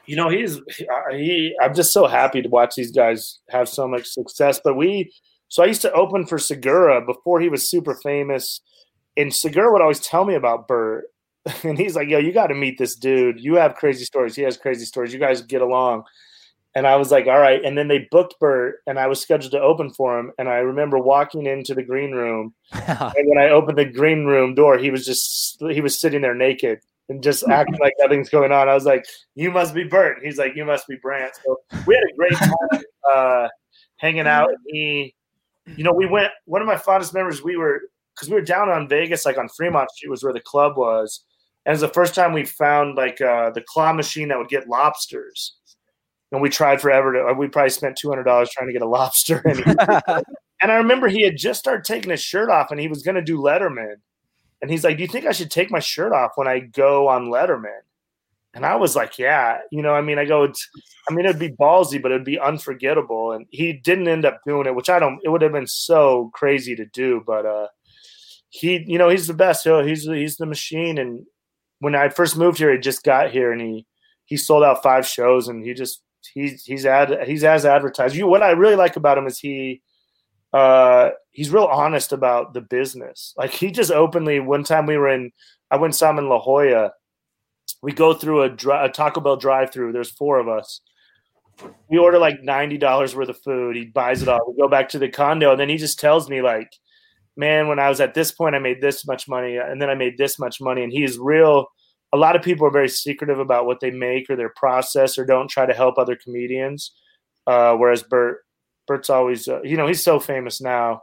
I'm just so happy to watch these guys have so much success. But I used to open for Segura before he was super famous, and Segura would always tell me about Bert, and he's like, "Yo, you got to meet this dude. You have crazy stories. He has crazy stories. You guys get along." And I was like, "All right." And then they booked Bert, and I was scheduled to open for him. And I remember walking into the green room, and when I opened the green room door, he was sitting there naked and just acting like nothing's going on. I was like, "You must be Bert." He's like, "You must be Brant." So we had a great time hanging out. We went. One of my fondest memories. We were down on Vegas, like on Fremont Street, was where the club was, and it was the first time we found like the claw machine that would get lobsters. And we tried forever we probably spent $200 trying to get a lobster. And I remember he had just started taking his shirt off, and he was going to do Letterman. And he's like, "Do you think I should take my shirt off when I go on Letterman?" And I was like, "Yeah." It'd be ballsy, but it'd be unforgettable. And he didn't end up doing it, which it would have been so crazy to do. But he's the best. He's the machine. And when I first moved here, he just got here, and he sold out 5 shows, and he's as advertised. What I really like about him is he's real honest about the business. Like, he just openly, one time I went and saw him in La Jolla. We go through a Taco Bell drive-through. There's 4 of us. We order like $90 worth of food. He buys it all. We go back to the condo, and then he just tells me like, "Man, when I was at this point, I made this much money, and then I made this much money." And he's real. A lot of people are very secretive about what they make or their process, or don't try to help other comedians. Whereas Bert's always, he's so famous now.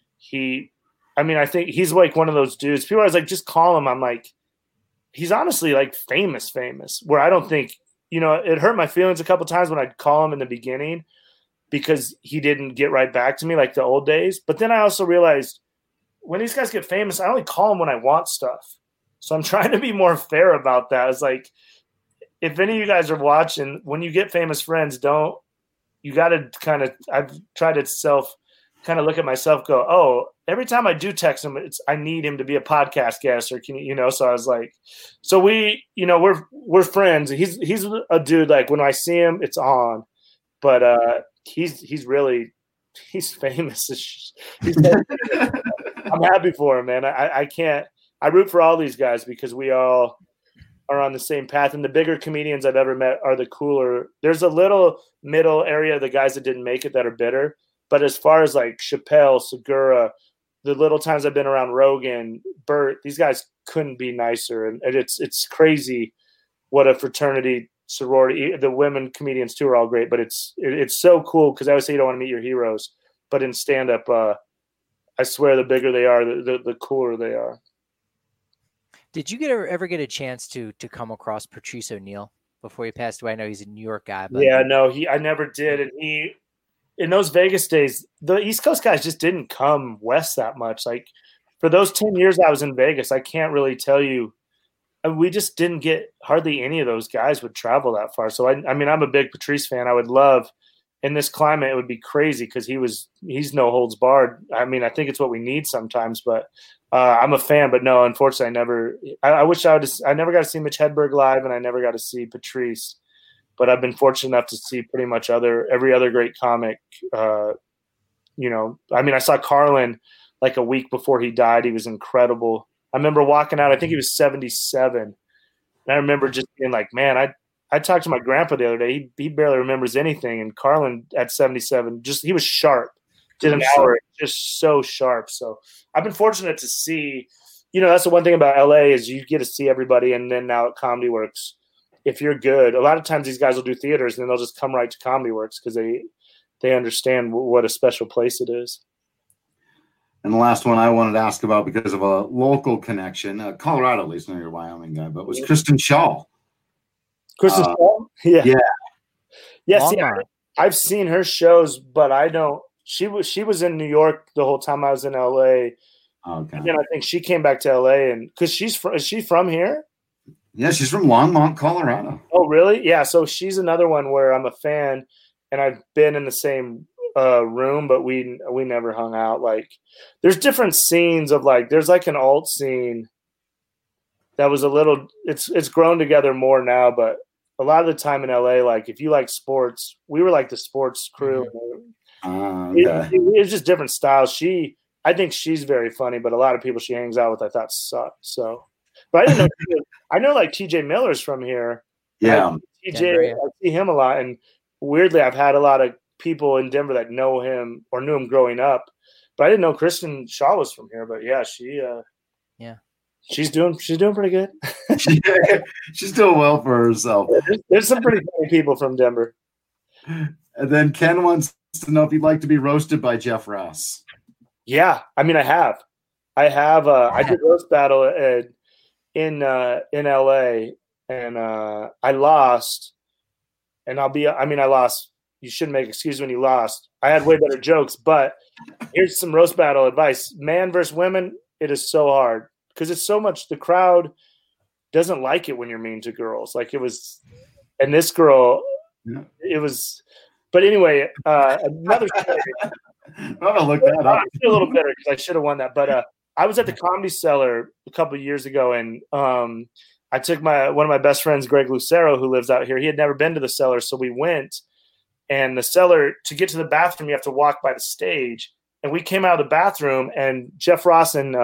I think he's like one of those dudes. People are always like, "Just call him." I'm like, he's honestly like famous, where I don't think, it hurt my feelings a couple times when I'd call him in the beginning because he didn't get right back to me like the old days. But then I also realized when these guys get famous, I only call them when I want stuff. So I'm trying to be more fair about that. It's like, if any of you guys are watching, when you get famous friends, I've tried to kind of look at myself, go, "Oh, every time I do text him, I need him to be a podcast guest, or can you, so I was like, so we're friends. He's a dude, like when I see him, it's on, but he's famous. I'm happy for him, man. I root for all these guys because we all are on the same path. And the bigger comedians I've ever met are the cooler. There's a little middle area of the guys that didn't make it that are bitter. But as far as like Chappelle, Segura, the little times I've been around Rogan, Bert, these guys couldn't be nicer. And it's crazy what a fraternity, sorority. The women comedians too are all great, but it's so cool because I always say you don't want to meet your heroes. But in stand-up, I swear the bigger they are, the cooler they are. Did you ever get a chance to come across Patrice O'Neal before he passed away? I know he's a New York guy. But... Yeah, no, I never did. And in those Vegas days, the East Coast guys just didn't come west that much. Like, for those 10 years I was in Vegas, I can't really tell you. We just didn't get hardly any of those guys would travel that far. So, I'm a big Patrice fan. I would love – in this climate, it would be crazy because he's no holds barred. I think it's what we need sometimes, but I'm a fan. But no, unfortunately, I wish I never got to see Mitch Hedberg live, and I never got to see Patrice. But I've been fortunate enough to see pretty much every other great comic. I saw Carlin like a week before he died. He was incredible. I remember walking out. I think he was 77, and I remember just being like, man, I talked to my grandpa the other day. He barely remembers anything. And Carlin at 77, he was sharp. Did an hour, just so sharp. So I've been fortunate to see, that's the one thing about LA is you get to see everybody. And then now at Comedy Works, if you're good, a lot of times these guys will do theaters and then they'll just come right to Comedy Works because they understand what a special place it is. And the last one I wanted to ask about because of a local connection, Colorado, at least, I know you're a Wyoming guy, but was Kristen Schaal. Kristen Schaal? Yeah. See, Walmart. I've seen her shows, but I don't. She was in New York the whole time I was in LA. Okay. And then I think she came back to LA, and because is she from here? Yeah, she's from Longmont, Colorado. Oh, really? Yeah. So she's another one where I'm a fan, and I've been in the same room, but we never hung out. Like, there's different scenes of like, there's like an alt scene that was a little. It's grown together more now, but a lot of the time in LA, like if you like sports, we were like the sports crew. Okay. It was just different styles. I think she's very funny, but a lot of people she hangs out with I thought sucked. So, but I didn't know. I know like TJ Miller's from here. Yeah. TJ, I see him a lot, and weirdly, I've had a lot of people in Denver that know him or knew him growing up, but I didn't know Kristen Shaw was from here. But yeah, she's doing pretty good. She's doing well for herself. There's some pretty funny people from Denver. And then Ken wants to know if you'd like to be roasted by Jeff Ross. Yeah, I mean, I have. I did roast battle in LA, and I lost. And I lost. You shouldn't make excuses when you lost. I had way better jokes, but here's some roast battle advice: man versus women, it is so hard because it's so much. The crowd doesn't like it when you're mean to girls. Like it was, and this girl, it was. But anyway, another story. I'm gonna look that up. I feel a little bitter because I should have won that. But I was at the Comedy Cellar a couple of years ago, and I took one of my best friends, Greg Lucero, who lives out here. He had never been to the Cellar, so we went. And the Cellar, to get to the bathroom, you have to walk by the stage. And we came out of the bathroom, and Jeff Ross and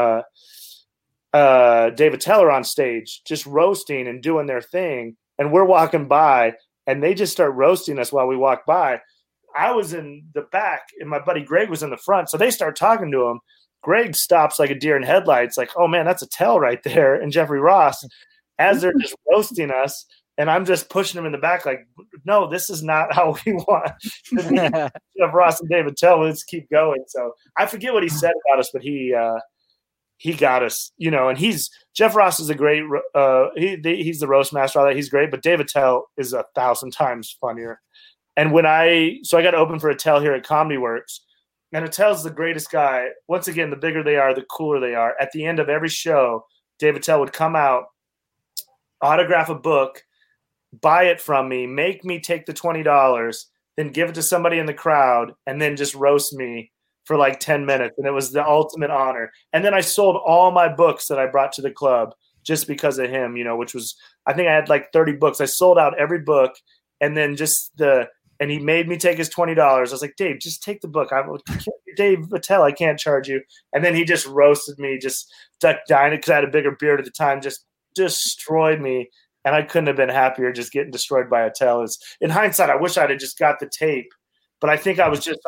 Dave Attell are on stage, just roasting and doing their thing. And we're walking by, and they just start roasting us while we walk by. I was in the back, and my buddy Greg was in the front. So they start talking to him. Greg stops like a deer in headlights, like, oh, man, that's Attell right there, and Jeffrey Ross, as they're just roasting us. And I'm just pushing him in the back like, no, this is not how we want Jeff Ross and Dave Attell. Let's keep going. So I forget what he said about us, but he got us, and Jeff Ross is a great, he's the roast master, all that. He's great, but Dave Attell is 1,000 times funnier. And so I got to open for Attell here at Comedy Works, and Attell's the greatest guy. Once again, the bigger they are, the cooler they are. At the end of every show, Dave Attell would come out, autograph a book, buy it from me, make me take the $20, then give it to somebody in the crowd, and then just roast me for like 10 minutes. And it was the ultimate honor. And then I sold all my books that I brought to the club just because of him, which was, I think I had like 30 books. I sold out every book. And then and he made me take his $20. I was like, Dave, just take the book. Dave Attell, I can't charge you. And then he just roasted me, just dying because I had a bigger beard at the time, just destroyed me. And I couldn't have been happier just getting destroyed by Attell. In hindsight, I wish I'd have just got the tape. But I think I was just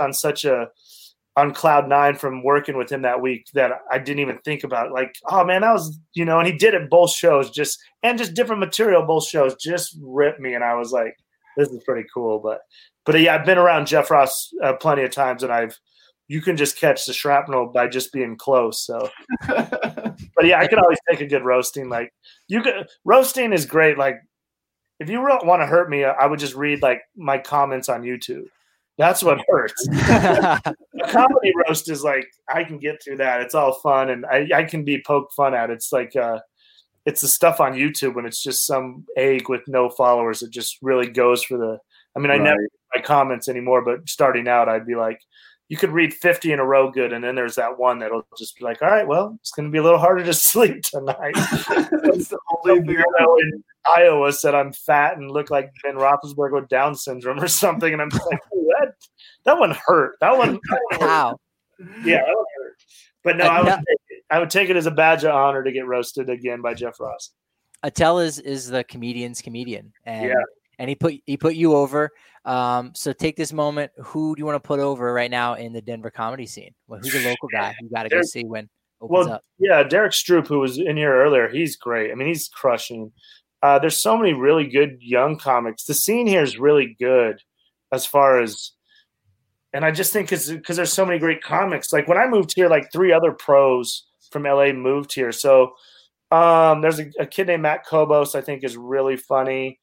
on cloud nine from working with him that week that I didn't even think about it. Like, oh, man, that was, and he did it both shows, just different material, both shows, just ripped me. And I was like, this is pretty cool. But yeah, I've been around Jeff Ross plenty of times, and you can just catch the shrapnel by just being close. So, but yeah, I could always take a good roasting. Like roasting is great. Like if you want to hurt me, I would just read like my comments on YouTube. That's what hurts. A comedy roast is like, I can get through that. It's all fun. And I can be poked fun at. It's like, it's the stuff on YouTube when it's just some egg with no followers. It just really goes for I never read my comments anymore, but starting out, I'd be like, you could read 50 in a row good, and then there's that one that'll just be like, all right, well, it's going to be a little harder to sleep tonight. That's the only thing in Iowa said I'm fat and look like Ben Roethlisberger with Down syndrome or something, and I'm just like, that one hurt. That one Wow. Yeah, that one hurt. But no, I would take it as a badge of honor to get roasted again by Jeff Ross. Attell is the comedian's comedian, and he put you over. So take this moment. Who do you want to put over right now in the Denver comedy scene? Well, who's a local guy you got to go see when opens up? Yeah, Derek Stroop, who was in here earlier, he's great. I mean, he's crushing. There's so many really good young comics. The scene here is really good as far as, and I just think because there's so many great comics. Like when I moved here, like 3 other pros from LA moved here. So there's a kid named Matt Kobos I think is really funny.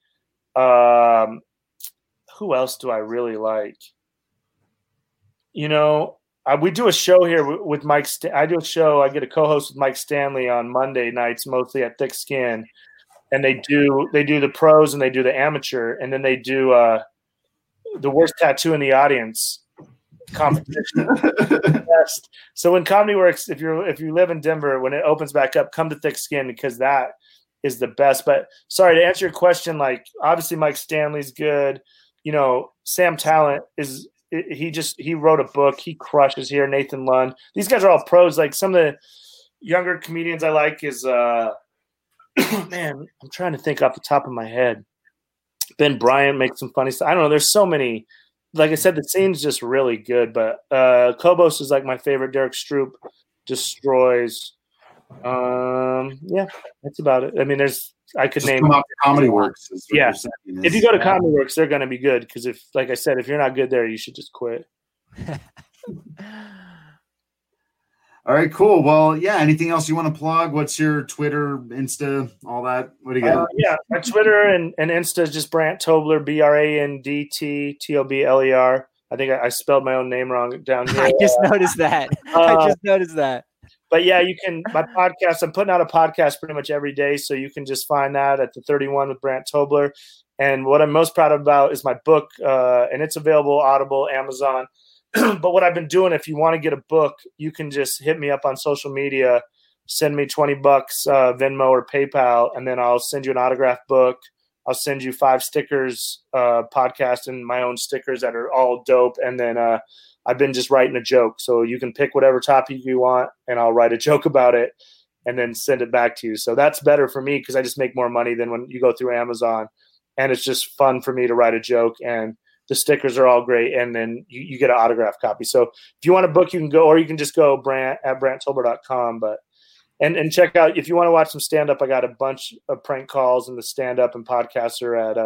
Who else do I really like? We do a show here with Mike. I do a show. I get a co-host with Mike Stanley on Monday nights, mostly at Thick Skin, and they do the pros and they do the amateur, and then they do the worst tattoo in the audience competition. So when Comedy Works, if you live in Denver, when it opens back up, come to Thick Skin because that is the best. But sorry, to answer your question, like obviously Mike Stanley's good. You know, Sam Talent he wrote a book. He crushes here. Nathan Lund. These guys are all pros. Like some of the younger comedians I like is man, I'm trying to think off the top of my head. Ben Bryant makes some funny stuff. I don't know. There's so many. Like I said, the scene's just really good. But Kobos is like my favorite. Derek Stroop destroys. Yeah, that's about it. I mean, I could name Comedy Works. Yeah, if you go to Comedy Works, they're going to be good because like I said, if you're not good there, you should just quit. All right, cool. Well, yeah. Anything else you want to plug? What's your Twitter, Insta, all that? What do you got? Yeah, my Twitter and Insta is just Brant Tobler, BRANDTTOBLER. I think I spelled my own name wrong down here. I just noticed that. But yeah, you can. My podcast. I'm putting out a podcast pretty much every day, so you can just find that at the 31 with Brant Tobler. And what I'm most proud about is my book, and it's available Audible, Amazon. But what I've been doing, if you want to get a book, you can just hit me up on social media, send me $20, Venmo or PayPal, and then I'll send you an autographed book. I'll send you 5 stickers, podcast and my own stickers that are all dope. And then I've been just writing a joke. So you can pick whatever topic you want, and I'll write a joke about it and then send it back to you. So that's better for me because I just make more money than when you go through Amazon. And it's just fun for me to write a joke, and the stickers are all great, and then you get an autographed copy. So if you want a book, you can go, or you can just go BrantTobler.com. But and check out, if you want to watch some stand-up, I got a bunch of prank calls, and the stand-up and podcasts are at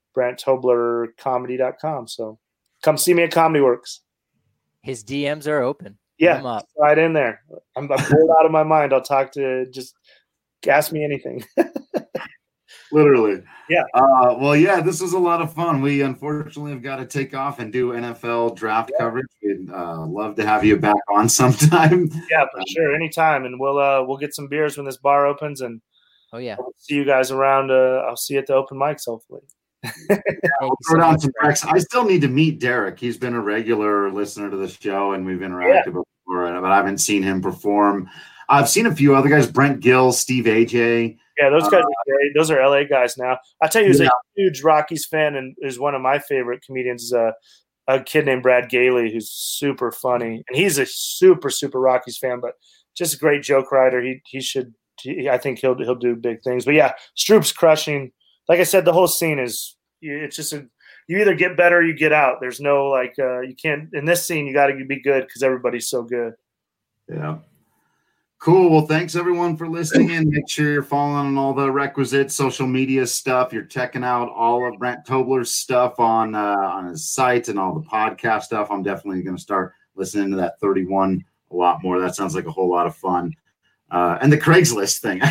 BrantToblerComedy.com. So come see me at Comedy Works. His DMs are open. Yeah, right in there. I'm bored out of my mind. I'll talk to, just ask me anything. Literally. Yeah. Well, yeah, this was a lot of fun. We unfortunately have got to take off and do NFL draft coverage. We'd love to have you back on sometime. Yeah, for sure. Anytime. And we'll get some beers when this bar opens, and I'll see you guys around. I'll see you at the open mics, hopefully. We'll throw down some tracks. I still need to meet Derek. He's been a regular listener to the show, and we've interacted before, but I haven't seen him perform. I've seen a few other guys, Brent Gill, Steve AJ. Yeah, those guys are great. Those are LA guys now. I tell you, who's a huge Rockies fan and is one of my favorite comedians, is a kid named Brad Gailey, who's super funny. And he's a super, super Rockies fan, but just a great joke writer. I think he'll do big things. But yeah, Stroop's crushing. Like I said, the whole scene it's just you either get better or you get out. There's no you can't, in this scene, you got to be good because everybody's so good. Yeah. Cool. Well, thanks everyone for listening in. Make sure you're following on all the requisite social media stuff. You're checking out all of Brant Tobler's stuff on his site and all the podcast stuff. I'm definitely going to start listening to that 31 a lot more. That sounds like a whole lot of fun. And the Craigslist thing.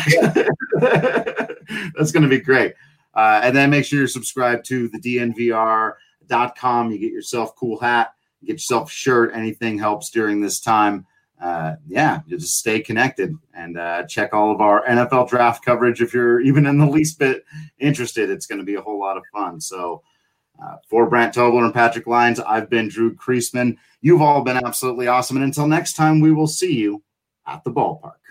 That's going to be great. And then make sure you're subscribed to the DNVR.com. You get yourself a cool hat, get yourself a shirt. Anything helps during this time. You just stay connected and check all of our NFL draft coverage. If you're even in the least bit interested, it's going to be a whole lot of fun. So for Brant Tobler and Patrick Lyons, I've been Drew Creasman. You've all been absolutely awesome. And until next time, we will see you at the ballpark.